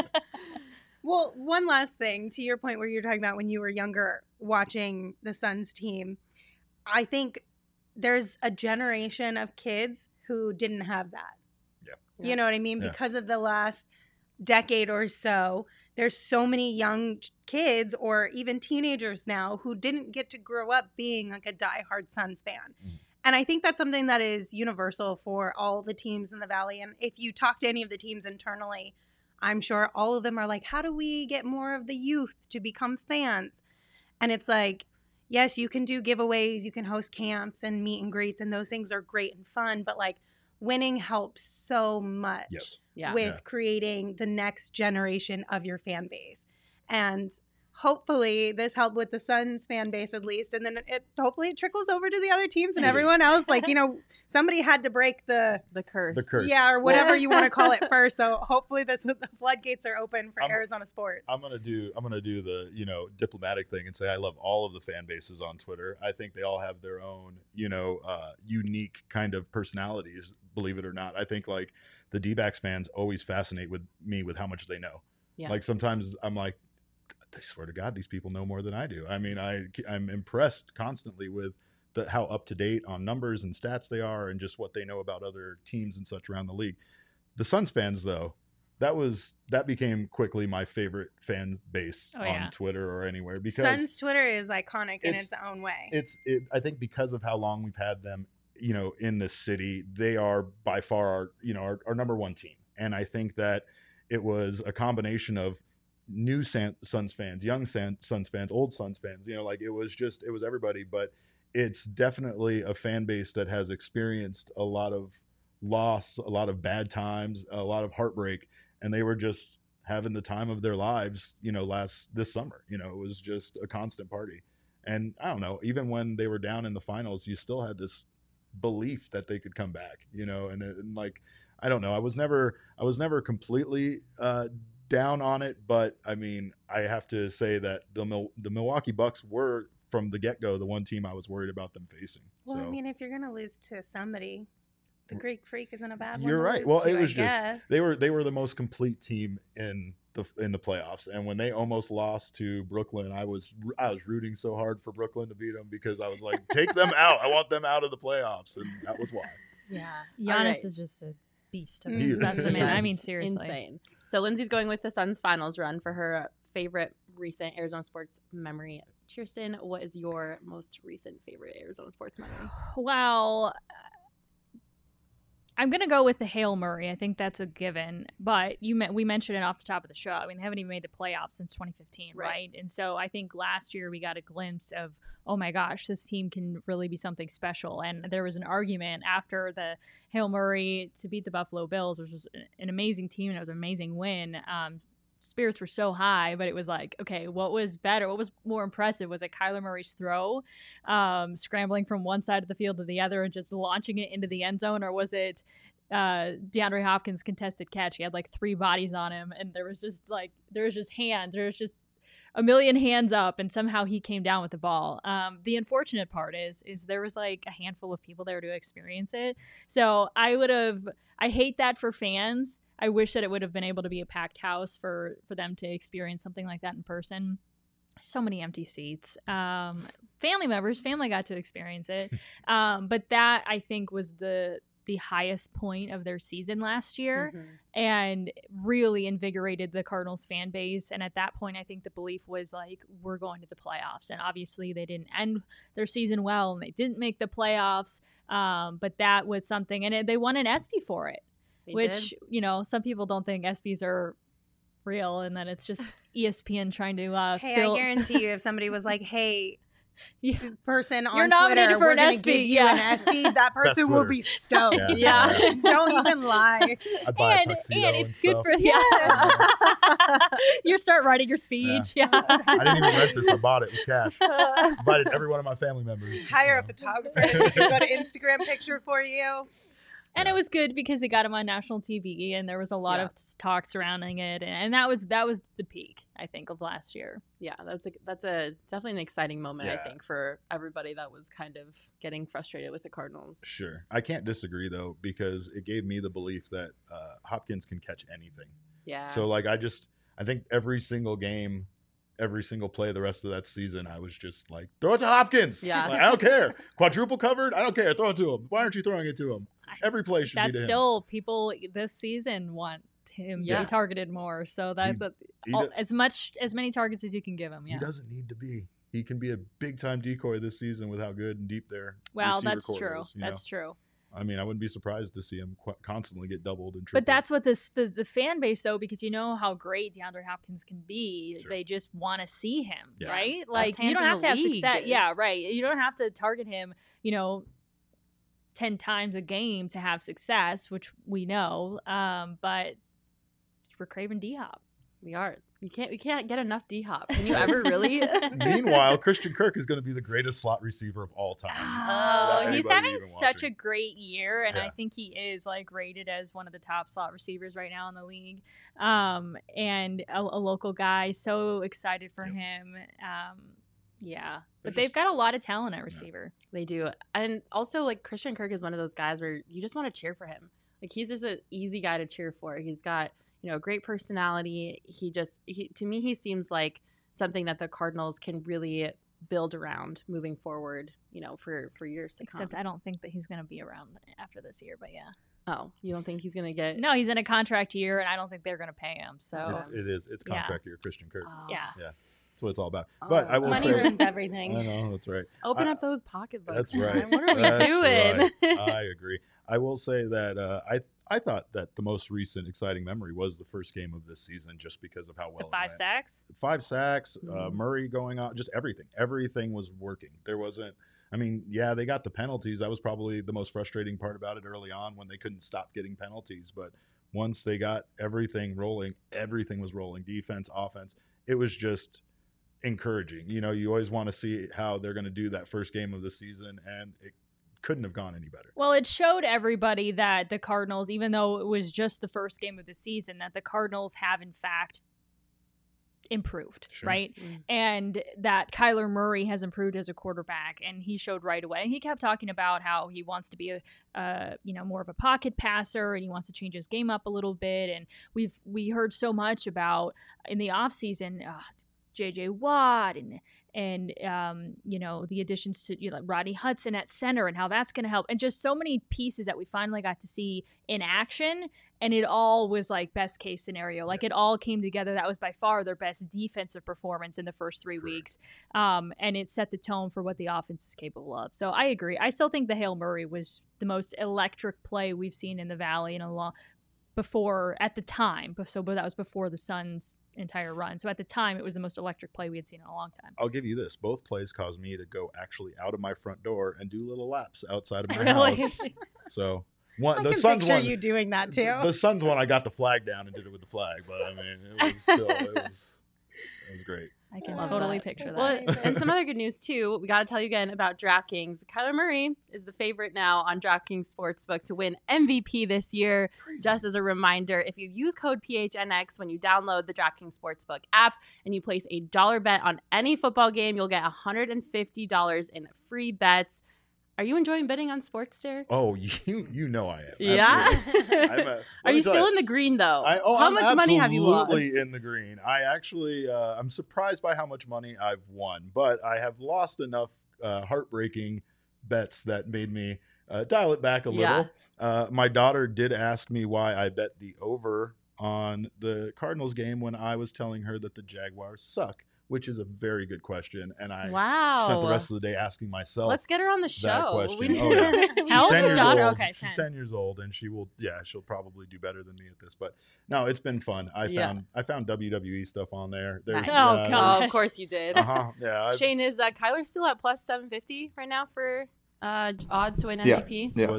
Well, one last thing to your point where you're talking about when you were younger watching the Suns team, I think there's a generation of kids who didn't have that. Yeah. You know what I mean? Yeah. Because of the last decade or so, there's so many young kids or even teenagers now who didn't get to grow up being like a diehard Suns fan. Mm. And I think that's something that is universal for all the teams in the Valley. And if you talk to any of the teams internally, I'm sure all of them are like, how do we get more of the youth to become fans? And it's like, yes, you can do giveaways, you can host camps and meet and greets, and those things are great and fun. But like winning helps so much Yes. Yeah. with Yeah. creating the next generation of your fan base. And hopefully this helped with the Suns fan base at least. And then it hopefully it trickles over to the other teams and Yeah. everyone else. Like, you know, somebody had to break the The curse. The curse. yeah, or whatever you want to call it first. So hopefully this, the floodgates are open for I'm- Arizona sports. I'm gonna do I'm gonna do the you know diplomatic thing and say I love all of the fan bases on Twitter. I think they all have their own you know uh, unique kind of personalities. Believe it or not, I think like the D-backs fans always fascinate with me with how much they know. Yeah. Like sometimes I'm like, I swear to God, these people know more than I do. I mean, I I'm impressed constantly with the how up to date on numbers and stats they are, and just what they know about other teams and such around the league. The Suns fans, though, that was that became quickly my favorite fan base Oh, on yeah. Twitter or anywhere because Suns Twitter is iconic in It's- its own way. it's it, I think because of how long we've had them, you know, in this city, they are by far our you know our, our number one team, and I think that it was a combination of new San, Suns fans, young San, Suns fans, old Suns fans. You know, like it was just it was everybody, but it's definitely a fan base that has experienced a lot of loss, a lot of bad times, a lot of heartbreak, and they were just having the time of their lives. You know, last this summer, you know, it was just a constant party. And I don't know, even when they were down in the finals, you still had this belief that they could come back, you know, and, and like, I don't know. I was never, I was never completely uh, down on it, but I mean, I have to say that the Mil- the Milwaukee Bucks were from the get-go the one team I was worried about them facing. well, so I mean, if you're gonna lose to somebody, the Greek Freak isn't a bad one. you're to right. lose Well, to, it I was just guess. they were they were the most complete team in the in the playoffs, and when they almost lost to Brooklyn, I was I was rooting so hard for Brooklyn to beat them because I was like, take them out. I want them out of the playoffs, and that was why. Yeah. Giannis All right. is just a beast of He a is. specimen. I Yes. mean, seriously. Insane. So Lindsay's going with the Suns finals run for her favorite recent Arizona sports memory. Kirsten, what is your most recent favorite Arizona sports memory? Well, I'm gonna go with the Hail Murray. I think that's a given. But you me- we mentioned it off the top of the show. I mean, they haven't even made the playoffs since twenty fifteen, Right. right? And so I think last year we got a glimpse of, oh my gosh, this team can really be something special. And there was an argument after the Hail Murray to beat the Buffalo Bills, which was an amazing team and it was an amazing win. Um, spirits were so high, but it was like, okay, what was better? What was more impressive? Was it Kyler Murray's throw, um, scrambling from one side of the field to the other and just launching it into the end zone? Or was it uh, DeAndre Hopkins' contested catch? He had like three bodies on him and there was just like, there was just hands. There was just a million hands up and somehow he came down with the ball. Um, the unfortunate part is, is there was like a handful of people there to experience it. So I would have, I hate that for fans. I wish that it would have been able to be a packed house for, for them to experience something like that in person. So many empty seats. Um, family members, family got to experience it. Um, but that I think was the, the highest point of their season last year. Mhm. And really invigorated the Cardinals fan base. And at that point, I think the belief was like, we're going to the playoffs. And obviously they didn't end their season well and they didn't make the playoffs. Um, but that was something, and it, they won an ESPY for it, They which, did. you know, some people don't think ESPYs are real and that it's just E S P N trying to uh, Hey, fill. I guarantee you, if somebody was like, "Hey, Yeah. person on You're nominated Twitter, for we're an gonna ESPY, give you yeah. an ESPY," that person will Twitter. be stoked. Yeah. Yeah. Don't even lie. I buy a And, tuxedo and and, it's good stuff. for yeah. You start writing your speech. Yeah. I didn't even rent this. I bought it with cash. Invited every one of my family members. Hire you a know. photographer to take a good Instagram picture for you. And Yeah. it was good because it got him on national T V, and there was a lot Yeah. of talk surrounding it, and, and that was that was the peak, I think, of last year. Yeah, that's a that's a definitely an exciting moment, I Yeah. think, for everybody that was kind of getting frustrated with the Cardinals. Sure. I can't disagree, though, because it gave me the belief that uh, Hopkins can catch anything. Yeah. So, like, I just, I think every single game, every single play the rest of that season, I was just like, throw it to Hopkins. Yeah. Like, I don't care. Quadruple covered? I don't care. Throw it to him. Why aren't you throwing it to him? Every play should be That's to him. still people this season want him to Yeah. be targeted more. So that, He- that He, all, do- as much as many targets as you can give him. he Yeah. doesn't need to be. He can be a big time decoy this season with how good and deep their Well, receiver that's core true. is, you That's know? true. I mean, I wouldn't be surprised to see him qu- constantly get doubled and tripled. But that's what this the, the fan base though, because you know how great DeAndre Hopkins can be. Sure. They just want to see him, Yeah. right? Like you hands don't in have the to have league. success. Yeah, right. You don't have to target him, you know, ten times a game to have success, which we know. Um, but we're craving D Hop. we are. You can't we can't get enough D Hop. Can you ever really? Meanwhile, Christian Kirk is going to be the greatest slot receiver of all time. Oh, Without he's anybody having even such watching. a great year, and I Yeah. think he is like rated as one of the top slot receivers right now in the league. Um, and a, a local guy, so excited for Yep. him. Um, yeah, They're but they've just- got a lot of talent at receiver. They do. And also, like, Christian Kirk is one of those guys where you just want to cheer for him. Like, he's just an easy guy to cheer for. He's got, you know, great personality. He just, he, to me, he seems like something that the Cardinals can really build around moving forward, you know, for, for years to Except come. I don't think that he's going to be around after this year. But yeah, Oh, you don't think he's going to get. no, he's in a contract year, and I don't think they're going to pay him. So It's, it is. It's Yeah. contract year, Christian Kirk. Oh. yeah, That's what it's all about. But Oh. I will Money say, ruins I everything. know that's right. Open I- up those pocketbooks. That's right. man. What are we That's doing? right. I agree. I will say that uh, I I thought that the most recent exciting memory was the first game of this season, just because of how well the it five went. sacks. five sacks, uh, Mhm. Murray going on, just everything. Everything was working. There wasn't. I mean, yeah, they got the penalties. That was probably the most frustrating part about it early on when they couldn't stop getting penalties. But once they got everything rolling, everything was rolling. Defense, offense. It was just encouraging. You know, you always want to see how they're going to do that first game of the season, and it couldn't have gone any better. Well, it showed everybody that the Cardinals, even though it was just the first game of the season, that the Cardinals have in fact improved, Sure. right? Mm. And that Kyler Murray has improved as a quarterback, and he showed right away. He kept talking about how he wants to be a, uh, you know, more of a pocket passer, and he wants to change his game up a little bit. And we've we heard so much about in the offseason, uh, J J Watt and and um, you know, the additions to, you know, like Rodney Hudson at center and how that's going to help, and just so many pieces that we finally got to see in action, and it all was like best case scenario. Like it all came together. That was by far their best defensive performance in the first three Correct. weeks, um, and it set the tone for what the offense is capable of. So I agree. I still think the Hail Murray was the most electric play we've seen in the Valley in a long before at the time. But so, but that was before the Suns' entire run. So at the time, it was the most electric play we had seen in a long time. I'll give you this. Both plays caused me to go actually out of my front door and do little laps outside of my Really? house. So one, I the can Suns picture one, you doing that too. The Suns one, I got the flag down and did it with the flag, but I mean, it was still, it was, it was great. I can Love totally that. picture that. Well, Amazing. and some other good news too. We got to tell you again about DraftKings. Kyler Murray is the favorite now on DraftKings Sportsbook to win M V P this year. Just as a reminder, if you use code P H N X when you download the DraftKings Sportsbook app and you place a dollar bet on any football game, you'll get one hundred fifty dollars in free bets. Are you enjoying betting on sports, Derek? Oh, you you know I am. Yeah. Absolutely. I'm a- let Are me you tell still in the green though? I, oh, How I'm much money have you lost? absolutely in the green. I actually, uh, I'm surprised by how much money I've won, but I have lost enough uh, heartbreaking bets that made me uh, dial it back a little. Yeah. Uh, my daughter did ask me why I bet the over on the Cardinals game when I was telling her that the Jaguars suck, which is a very good question, and I Wow. spent the rest of the day asking myself. Let's get her on the show. that question. We- Oh, yeah. we- How old's ten your years daughter? old. Okay, she's ten. ten years old, and she will. Yeah, she'll probably do better than me at this. But no, it's been fun. I Yeah. found I found W W E stuff on there. There's, Nice. Oh, uh, gosh. Oh, of course you did. Uh huh. Yeah. I've- Shane, is uh, Kyler still at plus seven fifty right now for uh, odds to win Yeah. M V P? Yeah. was-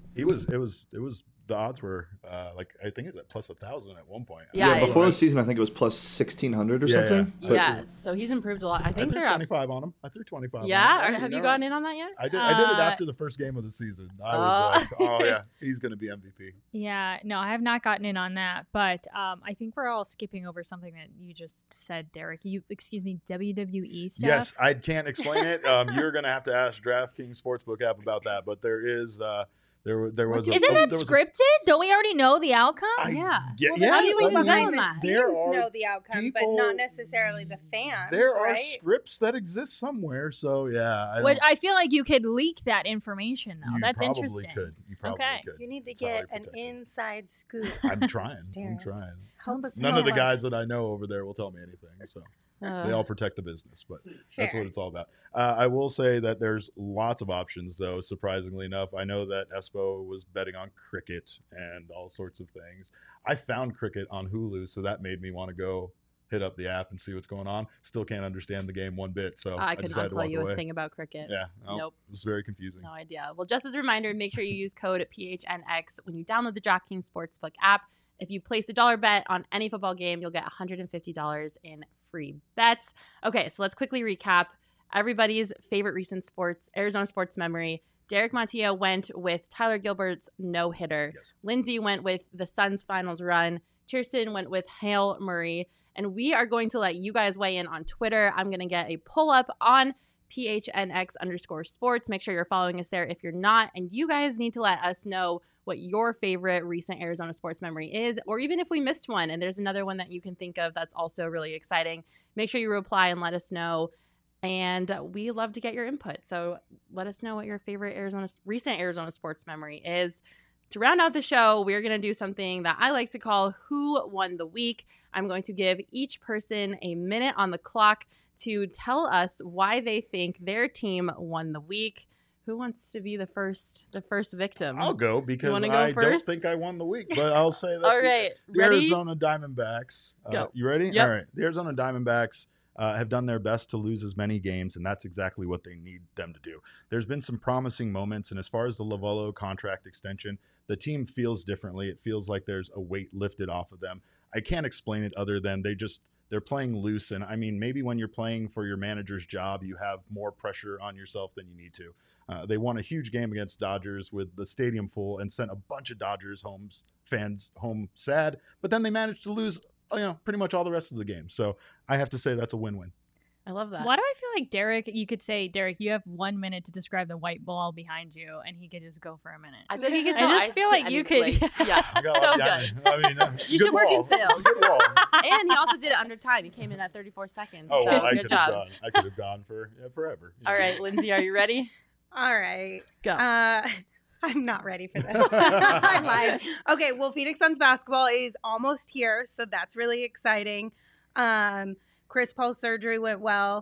He was. It was. It was. The odds were uh, like I think it was at plus a thousand at one point. Yeah, Yeah, before the season, I think it was plus sixteen hundred or Yeah, something. yeah. But Yeah, so he's improved a lot. I I think threw they're up. twenty-five on him. I threw twenty-five. Yeah, on him. or have you know. gone in on that yet? I did. I did it Uh, after the first game of the season. I Oh. was like, oh yeah, he's gonna be M V P. Yeah, no, I have not gotten in on that, but um, I think we're all skipping over something that you just said, Derek. You, excuse me, W W E stuff. Yes, I can't explain it. Um, you're gonna have to ask DraftKings Sportsbook app about that. But there is. Uh, There, there was. A, Isn't that there was scripted? Don't we already know the outcome? A, I, Yeah. Yeah. Well, yeah, the people I mean, behind the there scenes are know the outcome, people- but not necessarily the fans. There are right? scripts that exist somewhere. So yeah, I, Which don't- I feel like you could leak that information, though. you That's probably interesting. could. You probably Okay. could. You need to It's highly get an protected. inside scoop. I'm trying. I'm Darren. trying. Help us None help of the us. guys that I know over there will tell me anything. So. Uh, They all protect the business, but that's Fair. what it's all about. Uh, I will say that there's lots of options, though, surprisingly enough. I know that Espo was betting on cricket and all sorts of things. I found cricket on Hulu, so that made me want to go hit up the app and see what's going on. Still can't understand the game one bit, so I, I could decided not to tell walk you away. a thing about cricket. Yeah, no, Nope. It was very confusing. No idea. Well, just as a reminder, make sure you use code P H N X when you download the DraftKings Sportsbook app. If you place a dollar bet on any football game, you'll get one hundred fifty dollars in free bets. Okay, so let's quickly recap everybody's favorite recent sports, Arizona sports memory. Derek Montilla went with Tyler Gilbert's no-hitter. Yes. Lindsay went with the Suns' finals run. Kirsten went with Hail Murray. And we are going to let you guys weigh in on Twitter. I'm going to get a pull up on P H N X underscore sports. Make sure you're following us there if you're not. And you guys need to let us know what your favorite recent Arizona sports memory is, or even if we missed one and there's another one that you can think of that's also really exciting. Make sure you reply and let us know. And we love to get your input. So let us know what your favorite Arizona recent Arizona sports memory is. To round out the show, we're going to do something that I like to call Who Won the Week. I'm going to give each person a minute on the clock to tell us why they think their team won the week. Who wants to be the first the first victim? I'll go because wanna go I don't first? think I won the week, but I'll say that All the- right, the, ready? Arizona Diamondbacks. Uh, Go. You ready? Yep. All right. The Arizona Diamondbacks uh, have done their best to lose as many games, and that's exactly what they need them to do. There's been some promising moments, and as far as the Lovullo contract extension, the team feels differently. It feels like there's a weight lifted off of them. I can't explain it other than they just they're playing loose. And I mean, maybe when you're playing for your manager's job, you have more pressure on yourself than you need to. Uh, they won a huge game against Dodgers with the stadium full and sent a bunch of Dodgers homes fans home sad. But then they managed to lose, you know, pretty much all the rest of the game. So I have to say that's a win-win. I love that. Why do I feel like Derek, you could say, Derek, you have one minute to describe the white ball behind you, and he could just go for a minute. I feel like you can I tell just feel like I you mean, could- like, yeah, Go so up, good. yeah. I mean, uh, it's a You good should work in wall. It's a sales. good wall. And he also did it under time. He came in at thirty-four seconds. Oh, so well, I good could have job. gone. I could have gone for yeah, forever. All right, Lindsay, are you ready? All right. Go. Uh, I'm not ready for this. I lied. Okay, well, Phoenix Suns basketball is almost here, so that's really exciting. Um, Chris Paul's surgery went well.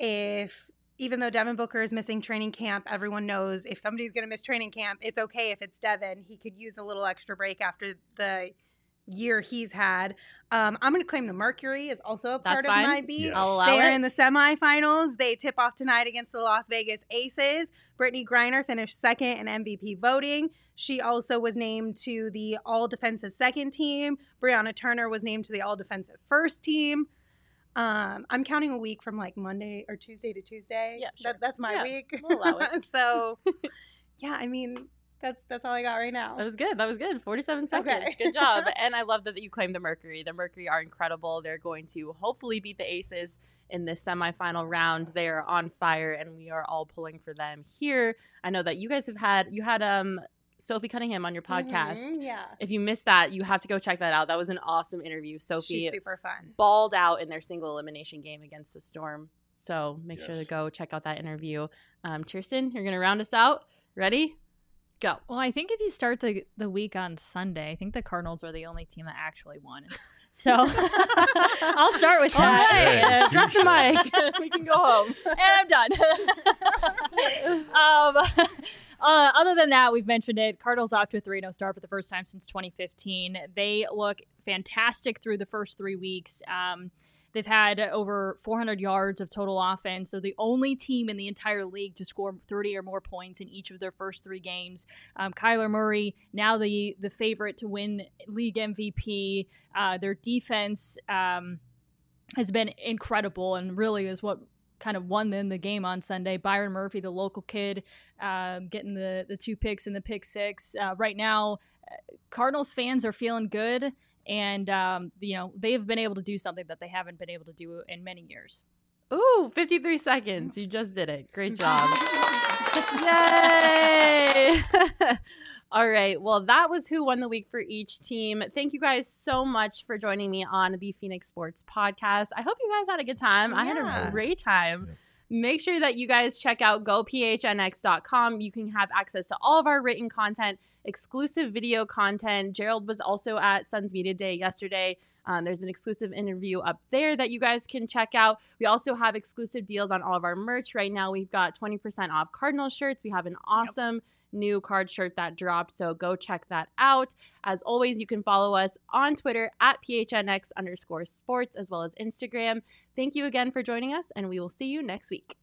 If even though Devin Booker is missing training camp, everyone knows if somebody's going to miss training camp, it's okay if it's Devin. He could use a little extra break after the year he's had. Um, I'm going to claim the Mercury is also a part That's of fine. my beat. Yes. I'll allow They are it. in the semifinals. They tip off tonight against the Las Vegas Aces. Brittany Griner finished second in M V P voting. She also was named to the all-defensive second team. Brianna Turner was named to the all-defensive first team. Um, I'm counting a week from like Monday or Tuesday to Tuesday. Yeah, sure. That, that's my Yeah, week. we'll allow it. So, yeah, I mean, that's that's all I got right now. That was good. That was good. forty-seven seconds. Okay. Good job. And I love that you claimed the Mercury. The Mercury are incredible. They're going to hopefully beat the Aces in this semifinal round. They are on fire, and we are all pulling for them here. I know that you guys have had you had um Sophie Cunningham on your podcast. Mhm, yeah. If you missed that, you have to go check that out. That was an awesome interview. Sophie She's super fun. balled out in their single elimination game against the Storm. So make sure Yes. to go check out that interview. Um, Kirsten, you're going to round us out. Ready? Go. Well, I think if you start the the week on Sunday, I think the Cardinals are the only team that actually won. So I'll start with All that. right, uh, drop the Touche. mic. We can go home. And I'm done. um, uh, other than that, we've mentioned it. Cardinals off to a three oh start for the first time since twenty fifteen. They look fantastic through the first three weeks. Um, They've had over four hundred yards of total offense. So the only team in the entire league to score thirty or more points in each of their first three games. Um, Kyler Murray, now the, the favorite to win league M V P. Uh, their defense um, has been incredible and really is what kind of won them the game on Sunday. Byron Murphy, the local kid, uh, getting the, the two picks and the pick six. Uh, right now, Cardinals fans are feeling good. And, um, you know, they've been able to do something that they haven't been able to do in many years. Ooh, fifty-three seconds. You just did it. Great job. Yay! All right. Well, that was who won the week for each team. Thank you guys so much for joining me on the Phoenix Sports Podcast. I hope you guys had a good time. I had Yeah. a great time. Yeah. Make sure that you guys check out go p h n x dot com. You can have access to all of our written content, exclusive video content. Gerald was also at Suns Media Day yesterday. Um, there's an exclusive interview up there that you guys can check out. We also have exclusive deals on all of our merch. Right now, we've got twenty percent off Cardinal shirts. We have an awesome yep. new card shirt that dropped, so go check that out. As always, you can follow us on Twitter at P H N X underscore sports, as well as Instagram. Thank you again for joining us, and we will see you next week.